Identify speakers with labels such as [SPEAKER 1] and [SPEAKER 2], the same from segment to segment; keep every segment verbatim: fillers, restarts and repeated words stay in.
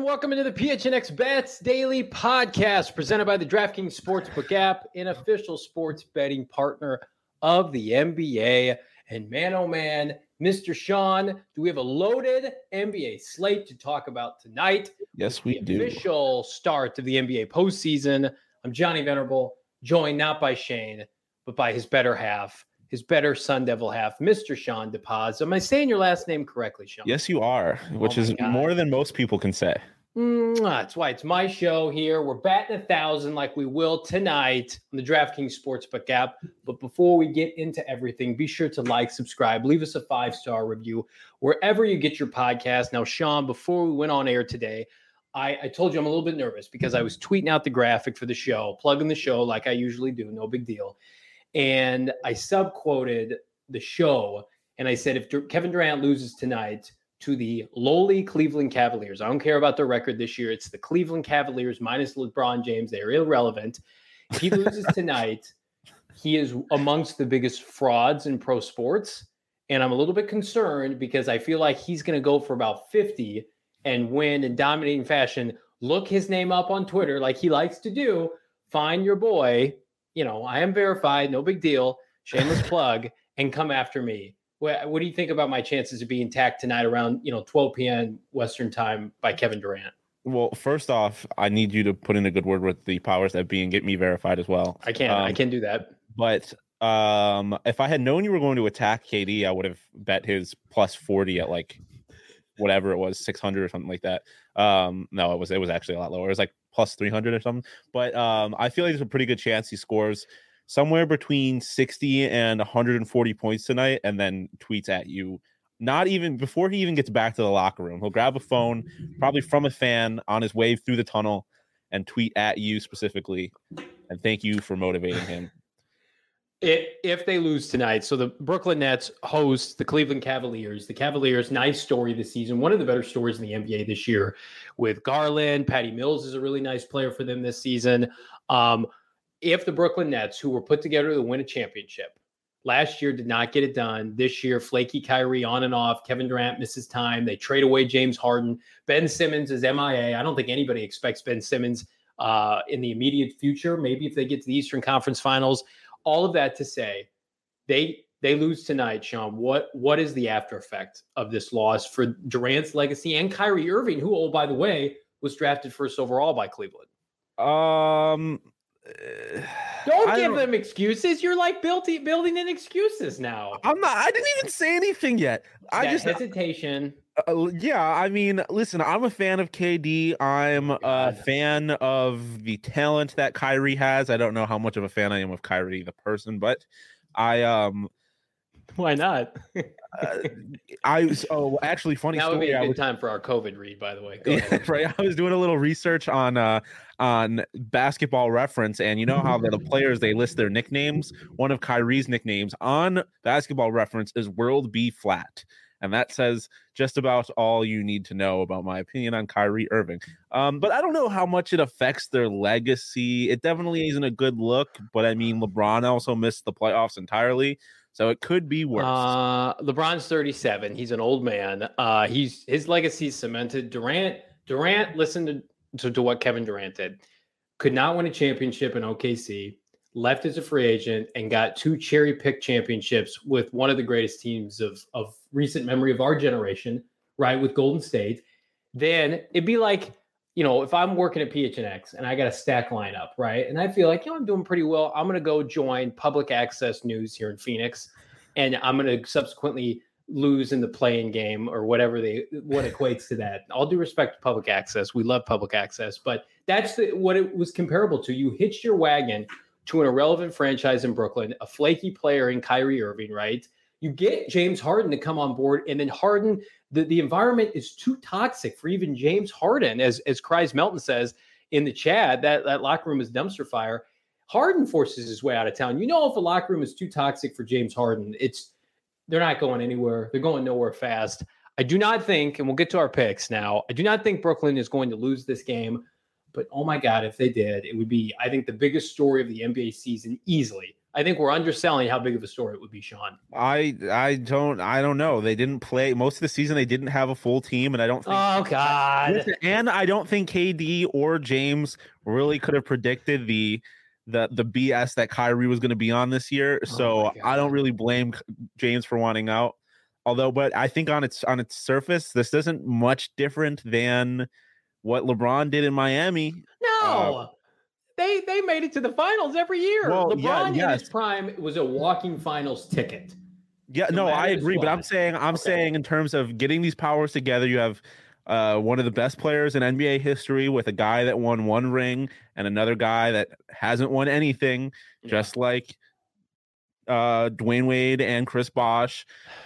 [SPEAKER 1] welcome into the P H N X Bets Daily Podcast presented by the DraftKings Sportsbook app, an official sports betting partner of the N B A. And man, oh man, Mister Sean, do we have a loaded N B A slate to talk about tonight?
[SPEAKER 2] Yes, we
[SPEAKER 1] the
[SPEAKER 2] do.
[SPEAKER 1] Official start of the N B A postseason. I'm Johnny Venerable, joined not by Shane, but by his better half, his better Sun Devil half, Mister Sean DePaz. Am I saying your last name correctly, Sean?
[SPEAKER 2] Yes, you are, which
[SPEAKER 1] oh
[SPEAKER 2] is
[SPEAKER 1] God.
[SPEAKER 2] more than most people can say.
[SPEAKER 1] Mm, that's why it's my show here. We're batting a thousand like we will tonight on the DraftKings Sportsbook app. But before we get into everything, be sure to like, subscribe, leave us a five-star review wherever you get your podcast. Now, Sean, before we went on air today, I, I told you I'm a little bit nervous because I was tweeting out the graphic for the show, plugging the show like I usually do, no big deal. And I sub-quoted the show, and I said, if Dur- Kevin Durant loses tonight to the lowly Cleveland Cavaliers, I don't care about their record this year. It's the Cleveland Cavaliers minus LeBron James. They're irrelevant. If he loses tonight, he is amongst the biggest frauds in pro sports. And I'm a little bit concerned because I feel like he's going to go for about fifty and win in dominating fashion. Look his name up on Twitter like he likes to do. Find your boy. You know, I am verified. No big deal. Shameless plug. And come after me. What, what do you think about my chances of being tagged tonight around, you know, twelve p.m. Western time by Kevin Durant?
[SPEAKER 2] Well, first off, I need you to put in a good word with the powers that be and get me verified as well.
[SPEAKER 1] I can. Um, I can do that.
[SPEAKER 2] But um, if I had known you were going to attack K D, I would have bet his plus forty at like whatever it was, six hundred or something like that. Um, no, it was it was actually a lot lower. It was like plus three hundred or something. But um, I feel like there's a pretty good chance he scores somewhere between sixty and one hundred forty points tonight, and then tweets at you. Not even before he even gets back to the locker room, he'll grab a phone, probably from a fan on his way through the tunnel, and tweet at you specifically. And thank you for motivating him.
[SPEAKER 1] It, if they lose tonight, so the Brooklyn Nets host the Cleveland Cavaliers. The Cavaliers, nice story this season. One of the better stories in the N B A this year with Garland. Patty Mills is a really nice player for them this season. Um, If the Brooklyn Nets, who were put together to win a championship, last year did not get it done. This year, flaky Kyrie on and off. Kevin Durant misses time. They trade away James Harden. Ben Simmons is M I A. I don't think anybody expects Ben Simmons uh, in the immediate future. Maybe if they get to the Eastern Conference Finals. All of that to say, they they lose tonight, Sean. What what is the after effect of this loss for Durant's legacy and Kyrie Irving, who, oh, by the way, was drafted first overall by Cleveland?
[SPEAKER 2] Um...
[SPEAKER 1] Don't
[SPEAKER 2] I
[SPEAKER 1] give
[SPEAKER 2] don't,
[SPEAKER 1] them excuses. You're like building building in excuses now.
[SPEAKER 2] I'm not. I didn't even say anything yet. I
[SPEAKER 1] that
[SPEAKER 2] just
[SPEAKER 1] hesitation.
[SPEAKER 2] Uh, yeah, I mean, listen. I'm a fan of K D. I'm a fan of the talent that Kyrie has. I don't know how much of a fan I am of Kyrie the person, but I um.
[SPEAKER 1] Why not?
[SPEAKER 2] uh, I oh actually funny
[SPEAKER 1] that
[SPEAKER 2] story.
[SPEAKER 1] would be a
[SPEAKER 2] I
[SPEAKER 1] good
[SPEAKER 2] was,
[SPEAKER 1] time for our COVID read, by the way. Go
[SPEAKER 2] yeah, right. I was doing a little research on uh on Basketball Reference, and you know how the players they list their nicknames. One of Kyrie's nicknames on Basketball Reference is World B Flat, and that says just about all you need to know about my opinion on Kyrie Irving. Um, but I don't know how much it affects their legacy. It definitely isn't a good look. But I mean, LeBron also missed the playoffs entirely. So it could be worse.
[SPEAKER 1] Uh, LeBron's thirty-seven. He's an old man. Uh, he's his legacy cemented. Durant, Durant, listen to, to, to what Kevin Durant did. Could not win a championship in O K C, left as a free agent, and got two cherry-picked championships with one of the greatest teams of, of recent memory of our generation, right, with Golden State. Then it'd be like, you know, if I'm working at P H N X and I got a stack lineup, right, and I feel like, you know, I'm doing pretty well, I'm going to go join public access news here in Phoenix, and I'm going to subsequently lose in the playing game or whatever they what equates to that. All due respect to public access, we love public access, but that's the, what it was comparable to. You hitched your wagon to an irrelevant franchise in Brooklyn, a flaky player in Kyrie Irving, right? You get James Harden to come on board, and then Harden, the, the environment is too toxic for even James Harden, as as Kreis Melton says in the chat, that, that locker room is dumpster fire. Harden forces his way out of town. You know, if a locker room is too toxic for James Harden, it's they're not going anywhere. They're going nowhere fast. I do not think, and we'll get to our picks now, I do not think Brooklyn is going to lose this game. But, oh, my God, if they did, it would be, I think, the biggest story of the N B A season easily I think we're underselling how big of a story it would be, Sean.
[SPEAKER 2] I I don't I don't know. They didn't play most of the season. They didn't have a full team, and I don't think.
[SPEAKER 1] Oh God!
[SPEAKER 2] Listen, and I don't think K D or James really could have predicted the the the B S that Kyrie was going to be on this year. So
[SPEAKER 1] Oh
[SPEAKER 2] I don't really blame James for wanting out. Although, but I think on its on its surface, this isn't much different than what LeBron did in Miami.
[SPEAKER 1] No.
[SPEAKER 2] Uh,
[SPEAKER 1] They they made it to the finals every year.
[SPEAKER 2] Well,
[SPEAKER 1] LeBron
[SPEAKER 2] yeah,
[SPEAKER 1] in
[SPEAKER 2] yes.
[SPEAKER 1] his prime was a walking finals ticket.
[SPEAKER 2] Yeah,
[SPEAKER 1] No
[SPEAKER 2] no, I
[SPEAKER 1] matter
[SPEAKER 2] agree, but I'm
[SPEAKER 1] what.
[SPEAKER 2] saying I'm
[SPEAKER 1] Okay.
[SPEAKER 2] saying in terms of getting these powers together, you have uh, one of the best players in N B A history with a guy that won one ring and another guy that hasn't won anything,
[SPEAKER 1] Yeah.
[SPEAKER 2] just like uh, Dwayne Wade and Chris Bosh.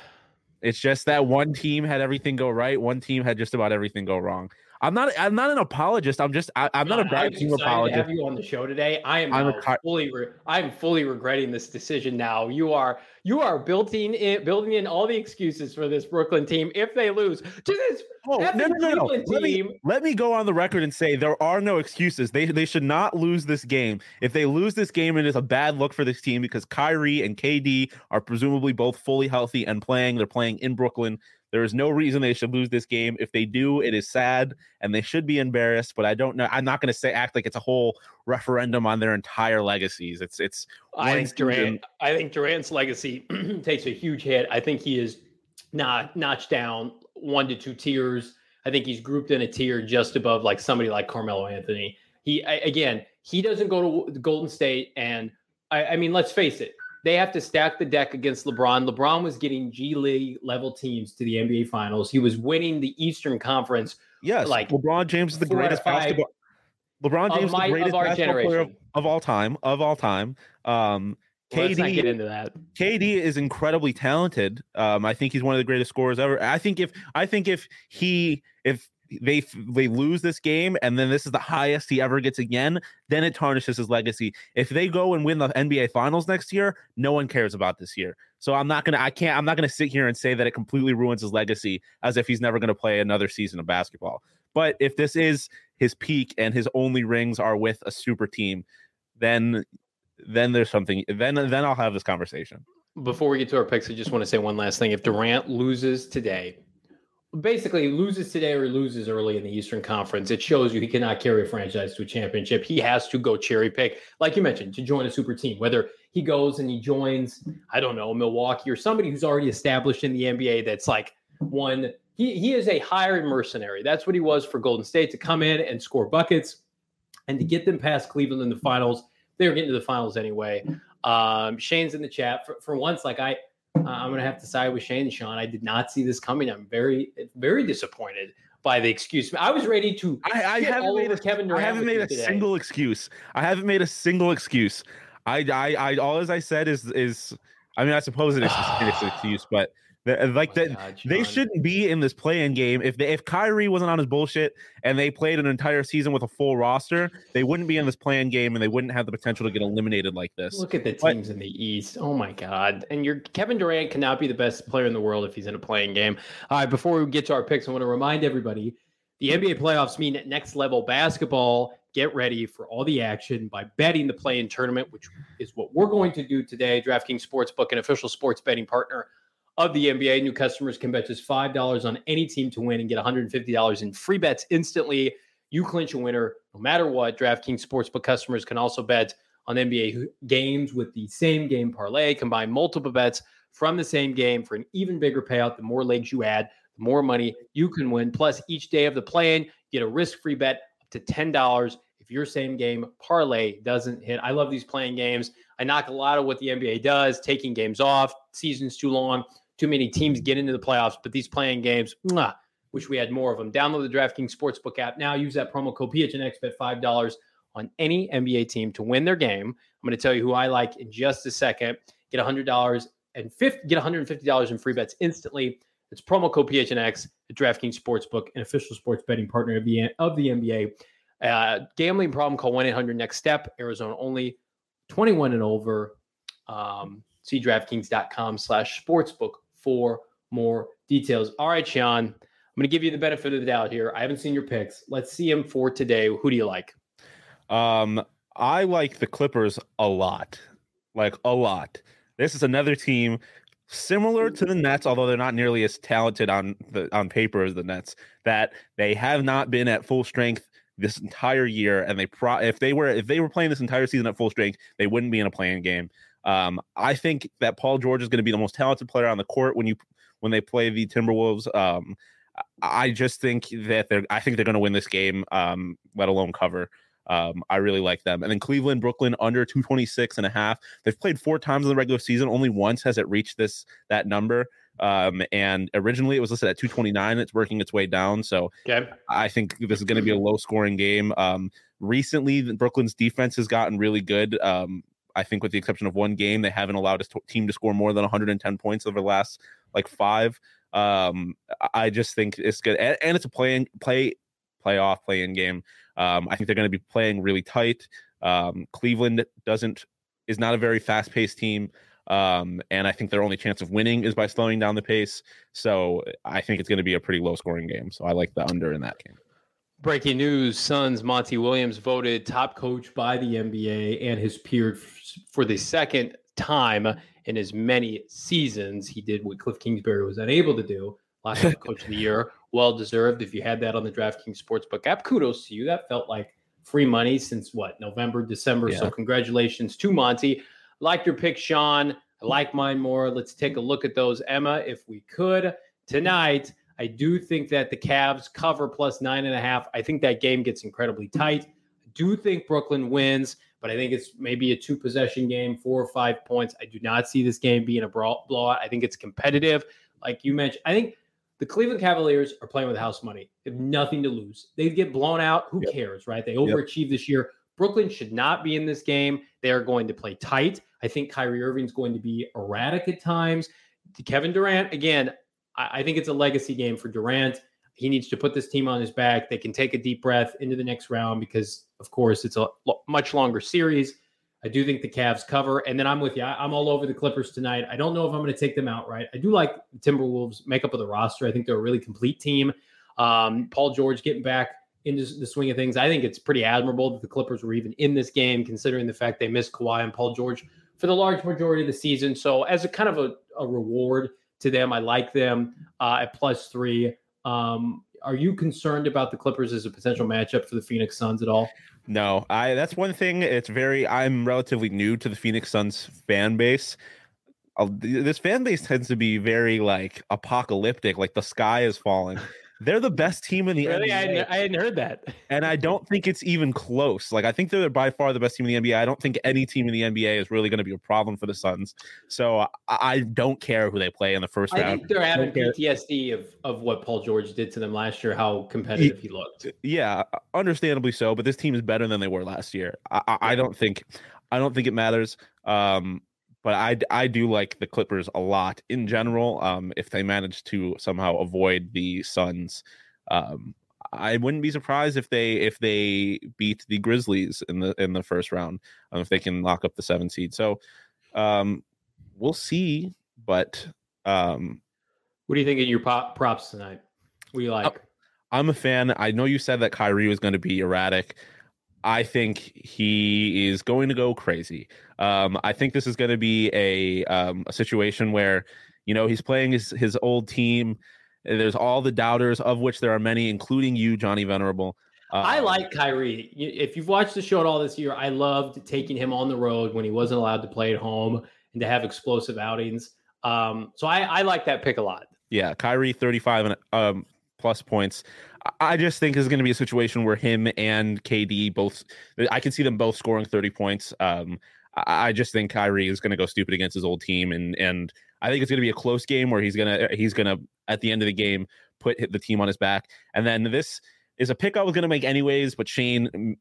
[SPEAKER 2] It's just that one team had everything go right, one team had just about everything go wrong. I'm not. I'm not an apologist. I'm just. I, I'm not a
[SPEAKER 1] John,
[SPEAKER 2] bad
[SPEAKER 1] I'm
[SPEAKER 2] team
[SPEAKER 1] excited
[SPEAKER 2] apologist.
[SPEAKER 1] to have you on the show today. I am
[SPEAKER 2] I'm a
[SPEAKER 1] now
[SPEAKER 2] car-
[SPEAKER 1] fully. Re- I'm fully regretting this decision now. You are. You are building in, building in all the excuses for this Brooklyn team if they lose to this
[SPEAKER 2] Oh, no,
[SPEAKER 1] effing
[SPEAKER 2] no, no, no.
[SPEAKER 1] Cleveland
[SPEAKER 2] Let
[SPEAKER 1] team.
[SPEAKER 2] me, let me go on the record and say there are no excuses. They they should not lose this game. If they lose this game, it is a bad look for this team because Kyrie and K D are presumably both fully healthy and playing. They're playing in Brooklyn. There is no reason they should lose this game. If they do, it is sad and they should be embarrassed. But I don't know. I'm not going to say act like it's a whole referendum on their entire legacies. It's it's.
[SPEAKER 1] I
[SPEAKER 2] one
[SPEAKER 1] think Durant.
[SPEAKER 2] season.
[SPEAKER 1] I think Durant's legacy takes a huge hit. I think he is not notched down one to two tiers. I think he's grouped in a tier just above like somebody like Carmelo Anthony. He I, again, he doesn't go to Golden State, and I, I mean, let's face it, they have to stack the deck against LeBron. LeBron was getting G League level teams to the N B A Finals. He was winning the Eastern Conference.
[SPEAKER 2] Yes,
[SPEAKER 1] like
[SPEAKER 2] LeBron James is the
[SPEAKER 1] four out of
[SPEAKER 2] greatest
[SPEAKER 1] five
[SPEAKER 2] basketball. LeBron
[SPEAKER 1] of
[SPEAKER 2] James is
[SPEAKER 1] my-
[SPEAKER 2] the greatest
[SPEAKER 1] of our
[SPEAKER 2] basketball player of,
[SPEAKER 1] generation.
[SPEAKER 2] of all time. Of all time. Um,
[SPEAKER 1] Well, let's not
[SPEAKER 2] K D
[SPEAKER 1] get into that.
[SPEAKER 2] K D is incredibly talented. Um, I think he's one of the greatest scorers ever. I think if I think if he if they they lose this game and then this is the highest he ever gets again, then it tarnishes his legacy. If they go and win the N B A Finals next year, no one cares about this year. So I'm not gonna I can't I'm not gonna sit here and say that it completely ruins his legacy as if he's never gonna play another season of basketball. But if this is his peak and his only rings are with a super team, then then there's something then then I'll have this conversation.
[SPEAKER 1] Before we get to our picks, I just want to say one last thing. If Durant loses today, basically loses today or loses early in the Eastern Conference, it shows you he cannot carry a franchise to a championship. He has to go cherry pick, like you mentioned, to join a super team. Whether he goes and he joins, I don't know, Milwaukee or somebody who's already established in the N B A that's like one. He, he is a hired mercenary. That's what he was for Golden State, to come in and score buckets and to get them past Cleveland in the finals. They were getting to the finals anyway. Um, Shane's in the chat. For, for once, like I, uh, I'm going to have to side with Shane and Sean. I did not see this coming. I'm very, very disappointed by the excuse. I was ready to.
[SPEAKER 2] I, I haven't
[SPEAKER 1] all
[SPEAKER 2] made
[SPEAKER 1] over
[SPEAKER 2] a,
[SPEAKER 1] Kevin
[SPEAKER 2] I
[SPEAKER 1] Durant
[SPEAKER 2] haven't
[SPEAKER 1] with
[SPEAKER 2] made
[SPEAKER 1] you
[SPEAKER 2] a
[SPEAKER 1] today.
[SPEAKER 2] single excuse. I haven't made a single excuse. I, I, I all as I said is, is, I mean, I suppose it is an excuse, but the, like
[SPEAKER 1] Oh my
[SPEAKER 2] that,
[SPEAKER 1] God,
[SPEAKER 2] they
[SPEAKER 1] Sean.
[SPEAKER 2] shouldn't be in this play-in game. If they, if Kyrie wasn't on his bullshit and they played an entire season with a full roster, they wouldn't be in this play-in game and they wouldn't have the potential to get eliminated like this.
[SPEAKER 1] Look at the
[SPEAKER 2] But-
[SPEAKER 1] teams in the East. Oh my God. And your Kevin Durant cannot be the best player in the world if he's in a playing game. All right, before we get to our picks, I want to remind everybody the N B A playoffs mean next level basketball. Get ready for all the action by betting the play-in tournament, which is what we're going to do today. DraftKings Sportsbook, an official sports betting partner of the N B A. New customers can bet just five dollars on any team to win and get one hundred fifty dollars in free bets instantly. You clinch a winner no matter what. DraftKings Sportsbook customers can also bet on N B A games with the same game parlay. Combine multiple bets from the same game for an even bigger payout. The more legs you add, the more money you can win. Plus, each day of the play-in, you get a risk-free bet up to ten dollars if your same game parlay doesn't hit. I love these playing games. I knock a lot of what the N B A does, taking games off, season's too long. Too many teams get into the playoffs, but these playing games, mwah, wish we had more of them. Download the DraftKings Sportsbook app now. Use that promo code P H N X, bet five dollars on any N B A team to win their game. I'm going to tell you who I like in just a second. Get one hundred dollars and fifty, get one hundred fifty dollars in free bets instantly. It's promo code P H N X at DraftKings Sportsbook, an official sports betting partner of the, of the N B A. Uh, gambling problem, call one eight hundred next step. Arizona only, twenty-one and over. Um, see DraftKings.com slash sportsbook for more details. All right, Sean, I'm going to give you the benefit of the doubt here. I haven't seen your picks. Let's see them for today. Who do you like?
[SPEAKER 2] Um, I like the Clippers a lot. like a lot. This is another team similar to the Nets, although they're not nearly as talented on the on paper as the Nets, that they have not been at full strength this entire year. And they pro if they were if they were playing this entire season at full strength, they wouldn't be in a playing game. Um, I think that Paul George is going to be the most talented player on the court when you when they play the Timberwolves. Um, I just think that they're I think they're going to win this game, um, let alone cover. Um, I really like them. And then Cleveland, Brooklyn under two twenty-six and a half. They've played four times in the regular season. Only once has it reached this that number. Um, and originally it was listed at two twenty-nine. It's working its way down. So
[SPEAKER 1] okay.
[SPEAKER 2] I think this is going to be a low scoring game. Um, recently, Brooklyn's defense has gotten really good. Um, I think with the exception of one game, they haven't allowed a team to score more than one hundred ten points over the last like five. Um, I just think it's good. And, and it's a play play playoff play-in game. Um, I think they're going to be playing really tight. Um, Cleveland doesn't is not a very fast-paced team, um, and I think their only chance of winning is by slowing down the pace. So I think it's going to be a pretty low-scoring game. So I like the under in that game.
[SPEAKER 1] Breaking news: Suns Monty Williams voted top coach by the N B A and his peer for the second time in as many seasons. He did what Cliff Kingsbury was unable to do. Last time coach of the year, well deserved. If you had that on the DraftKings Sportsbook app, kudos to you. That felt like free money since what, November, December. Yeah. So congratulations to Monty. Like your pick, Sean. I like mine more. Let's take a look at those, Emma, if we could. Tonight, I do think that the Cavs cover plus nine and a half. I think that game gets incredibly tight. I do think Brooklyn wins, but I think it's maybe a two possession game, four or five points. I do not see this game being a blowout. I think it's competitive. Like you mentioned, I think the Cleveland Cavaliers are playing with house money. They have nothing to lose. They get blown out. Who yep. cares, right? They overachieved yep. this year. Brooklyn should not be in this game. They are going to play tight. I think Kyrie Irving's going to be erratic at times. Kevin Durant, again, I, I think it's a legacy game for Durant. He needs to put this team on his back. They can take a deep breath into the next round because, of course, it's a lo- much longer series. I do think the Cavs cover. And then I'm with you. I, I'm all over the Clippers tonight. I don't know if I'm going to take them outright. I do like the Timberwolves makeup of the roster. I think they're a really complete team. Um, Paul George getting back into the swing of things. I think it's pretty admirable that the Clippers were even in this game, considering the fact they missed Kawhi and Paul George for the large majority of the season. So as a kind of a, a reward to them, I like them uh, at plus three. Um, are you concerned about the Clippers as a potential matchup for the Phoenix Suns at all?
[SPEAKER 2] No, I. That's one thing. It's very. I'm relatively new to the Phoenix Suns fan base. Uh, this fan base tends to be very like apocalyptic. Like the sky is falling. They're the best team in the
[SPEAKER 1] really?
[SPEAKER 2] N B A.
[SPEAKER 1] I hadn't, I hadn't heard that.
[SPEAKER 2] And I don't think it's even close. Like, I think they're by far the best team in the N B A. I don't think any team in the N B A is really going to be a problem for the Suns. So I, I don't care who they play in the first
[SPEAKER 1] I
[SPEAKER 2] round.
[SPEAKER 1] I think they're having P T S D of, of what Paul George did to them last year, how competitive he, he looked.
[SPEAKER 2] Yeah, understandably so. But this team is better than they were last year. I, I, I don't think I don't think it matters. Um, But I, I do like the Clippers a lot in general. Um, if they manage to somehow avoid the Suns, um, I wouldn't be surprised if they if they beat the Grizzlies in the in the first round. Um, if they can lock up the seven seed, so um, we'll see. But um,
[SPEAKER 1] what do you think of your pop props tonight? What do you like?
[SPEAKER 2] I'm a fan. I know you said that Kyrie was going to be erratic. I think he is going to go crazy. Um, I think this is going to be a um, a situation where, you know, he's playing his, his old team. There's all the doubters, of which there are many, including you, Johnny Venerable. Uh,
[SPEAKER 1] I like Kyrie. If you've watched the show at all this year, I loved taking him on the road when he wasn't allowed to play at home and to have explosive outings. Um, so I, I like that pick a lot.
[SPEAKER 2] Yeah, Kyrie, thirty-five and um, plus points. I just think this is going to be a situation where him and K D both, I can see them both scoring thirty points. Um, I just think Kyrie is going to go stupid against his old team. And, and I think it's going to be a close game where he's going to, he's going to, at the end of the game, put the team on his back. And then this is a pick I was going to make anyways, but Shane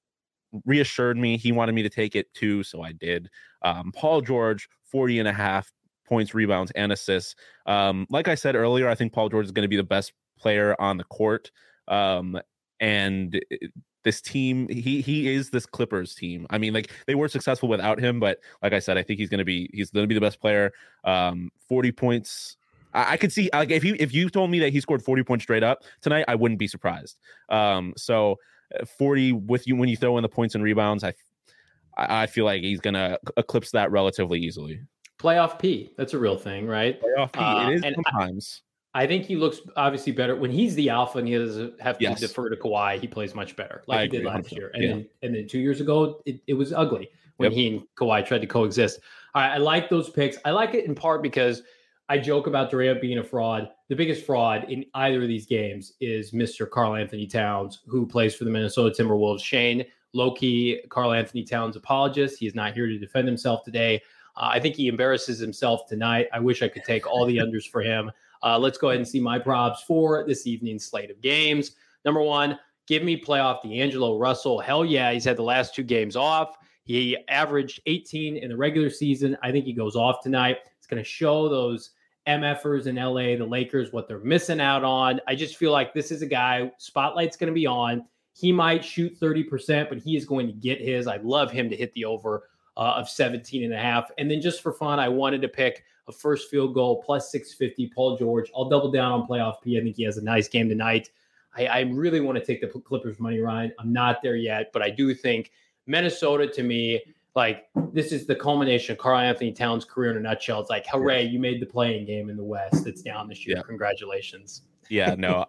[SPEAKER 2] reassured me. He wanted me to take it too. So I did. Um, Paul George, forty and a half points, rebounds, and assists. Um, like I said earlier, I think Paul George is going to be the best player on the court. Um, and this team, he he is this Clippers team. I mean, like, they were successful without him, but like I said, I think he's gonna be he's gonna be the best player. Um, forty points. I, I could see, like, if you if you told me that he scored forty points straight up tonight, I wouldn't be surprised. Um, so forty with you when you throw in the points and rebounds, I I, I feel like he's gonna eclipse that relatively easily.
[SPEAKER 1] Playoff P, that's a real thing, right?
[SPEAKER 2] Playoff P,
[SPEAKER 1] Uh,
[SPEAKER 2] it is
[SPEAKER 1] and
[SPEAKER 2] sometimes.
[SPEAKER 1] I, I think he looks obviously better when he's the alpha and he doesn't have to
[SPEAKER 2] Yes.
[SPEAKER 1] defer to Kawhi. He plays much better, like
[SPEAKER 2] I
[SPEAKER 1] he did
[SPEAKER 2] agree,
[SPEAKER 1] last
[SPEAKER 2] one hundred percent.
[SPEAKER 1] year. And
[SPEAKER 2] Yeah.
[SPEAKER 1] then and then two years ago, it, it was ugly when
[SPEAKER 2] Yep.
[SPEAKER 1] he and Kawhi tried to coexist. All right, I like those picks. I like it in part because I joke about Durant being a fraud. The biggest fraud in either of these games is Mister Karl Anthony Towns, who plays for the Minnesota Timberwolves. Shane, low-key Karl Anthony Towns apologist. He is not here to defend himself today. Uh, I think he embarrasses himself tonight. I wish I could take all the unders for him. Uh, let's go ahead and see my props for this evening's slate of games. Number one, give me playoff D'Angelo Russell. Hell yeah, he's had the last two games off. He averaged eighteen in the regular season. I think he goes off tonight. It's going to show those MFers in L A, the Lakers, what they're missing out on. I just feel like this is a guy, spotlight's going to be on. He might shoot thirty percent, but he is going to get his. I'd love him to hit the over uh, of seventeen and a half. And then just for fun, I wanted to pick a first field goal plus six fifty, Paul George. I'll double down on playoff P. I think he has a nice game tonight. I, I really want to take the Clippers money line. I'm not there yet, but I do think Minnesota, to me, like, this is the culmination of Karl Anthony Towns' career in a nutshell. It's like, hooray, you made the playing game in the West. It's down this year.
[SPEAKER 2] Yeah.
[SPEAKER 1] Congratulations.
[SPEAKER 2] Yeah, no,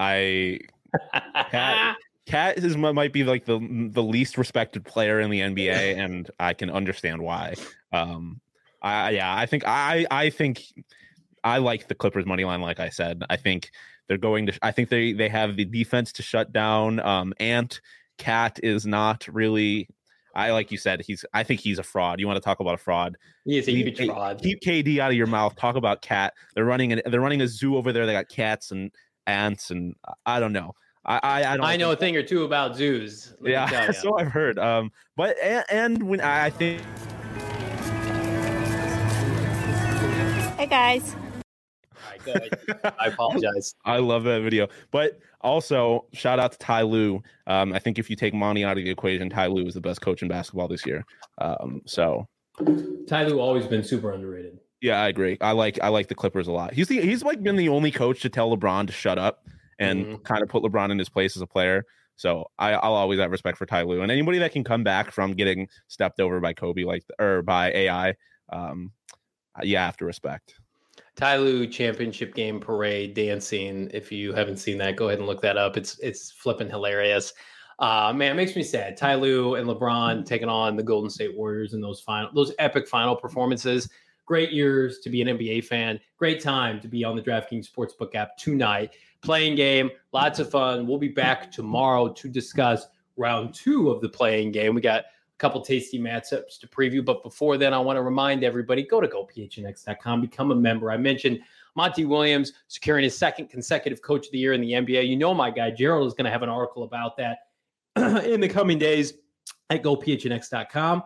[SPEAKER 2] I, I, Cat, Cat is might be like the the least respected player in the N B A, and I can understand why. Um, I yeah, I think I I think I like the Clippers money line. Like I said, I think they're going to. I think they they have the defense to shut down. Um, Ant Cat is not really. I like you said, he's. I think he's a fraud. You want to talk about a fraud?
[SPEAKER 1] He is a
[SPEAKER 2] Keep,
[SPEAKER 1] huge fraud.
[SPEAKER 2] Keep K D out of your mouth. Talk about Cat. They're running an, They're running a zoo over there. They got cats and ants, and I don't know. I I, I don't.
[SPEAKER 1] I know a thing or two about zoos.
[SPEAKER 2] Yeah, so I've heard. Um, but and, and when I think.
[SPEAKER 3] Hey guys.
[SPEAKER 1] All right, go ahead. I apologize.
[SPEAKER 2] I love that video. But also, shout out to Ty Lue. Um, I think if you take Monty out of the equation, Ty Lue is the best coach in basketball this year. Um, so
[SPEAKER 1] Ty Lue always been super underrated.
[SPEAKER 2] Yeah, I agree. I like I like the Clippers a lot. He's the he's like been the only coach to tell LeBron to shut up and mm-hmm. kind of put LeBron in his place as a player. So I, I'll always have respect for Ty Lue and anybody that can come back from getting stepped over by Kobe, like or by A I. Um, yeah, I have to respect.
[SPEAKER 1] Ty Lue championship game parade dancing. If you haven't seen that, go ahead and look that up. It's it's flipping hilarious. Uh, man, it makes me sad. Ty Lue and LeBron taking on the Golden State Warriors in those final, those epic final performances. Great years to be an N B A fan. Great time to be on the DraftKings Sportsbook app tonight. Playing game, lots of fun. We'll be back tomorrow to discuss round two of the playing game. We got couple tasty matchups to preview. But before then, I want to remind everybody, go to go P H N X dot com, become a member. I mentioned Monty Williams securing his second consecutive Coach of the Year in the N B A. You know my guy, Gerald, is going to have an article about that in the coming days at go P H N X dot com.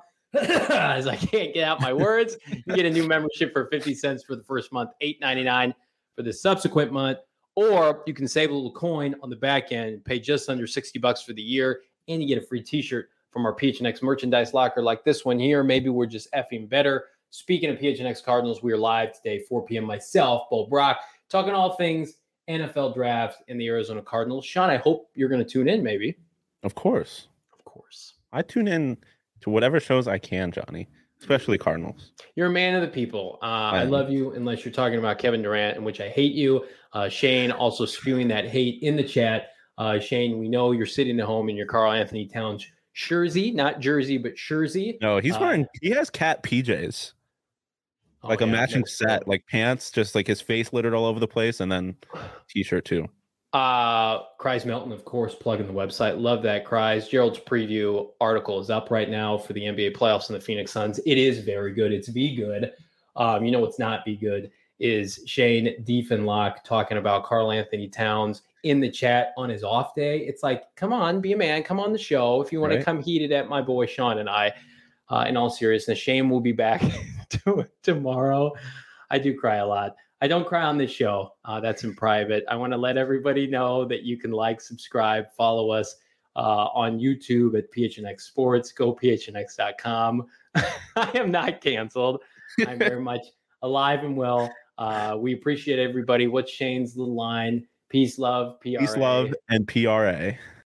[SPEAKER 1] As I can't get out my words, you get a new membership for fifty cents for the first month, eight ninety-nine for the subsequent month. Or you can save a little coin on the back end, pay just under sixty bucks for the year, and you get a free t-shirt from our P H N X merchandise locker like this one here. Maybe we're just effing better. Speaking of P H N X Cardinals, we are live today, four p.m. Myself, Bo Brock, talking all things N F L draft and the Arizona Cardinals. Sean, I hope you're going to tune in, maybe.
[SPEAKER 2] Of course.
[SPEAKER 1] Of course.
[SPEAKER 2] I tune in to whatever shows I can, Johnny, especially Cardinals.
[SPEAKER 1] You're a man of the people. Uh, I, I love you, unless you're talking about Kevin Durant, in which I hate you. Uh, Shane also spewing that hate in the chat. Uh, Shane, we know you're sitting at home in your Karl Anthony Towns jersey, not jersey, but jersey.
[SPEAKER 2] No, he's wearing, uh, he has cat P Js. Like oh, a yeah, matching set, cool. Like pants, just like his face littered all over the place, and then t-shirt too.
[SPEAKER 1] Uh, Cries Melton, of course, plugging the website. Love that, Cries. Gerald's preview article is up right now for the N B A playoffs and the Phoenix Suns. It is very good. It's be good. Um, you know what's not be good is Shane Diefenlock talking about Karl Anthony Towns in the chat on his off day. It's like, come on, be a man. Come on the show. If you want right. to come heated at my boy Sean and I, uh, in all seriousness, Shane will be back to, tomorrow. I do cry a lot. I don't cry on this show. Uh, that's in private. I want to let everybody know that you can like, subscribe, follow us uh, on YouTube at P H N X Sports. Go P H N X dot com. I am not canceled. I'm very much alive and well. Uh, we appreciate everybody. What's Shane's little line? Peace, love, P R A.
[SPEAKER 2] Peace, love, and P R A.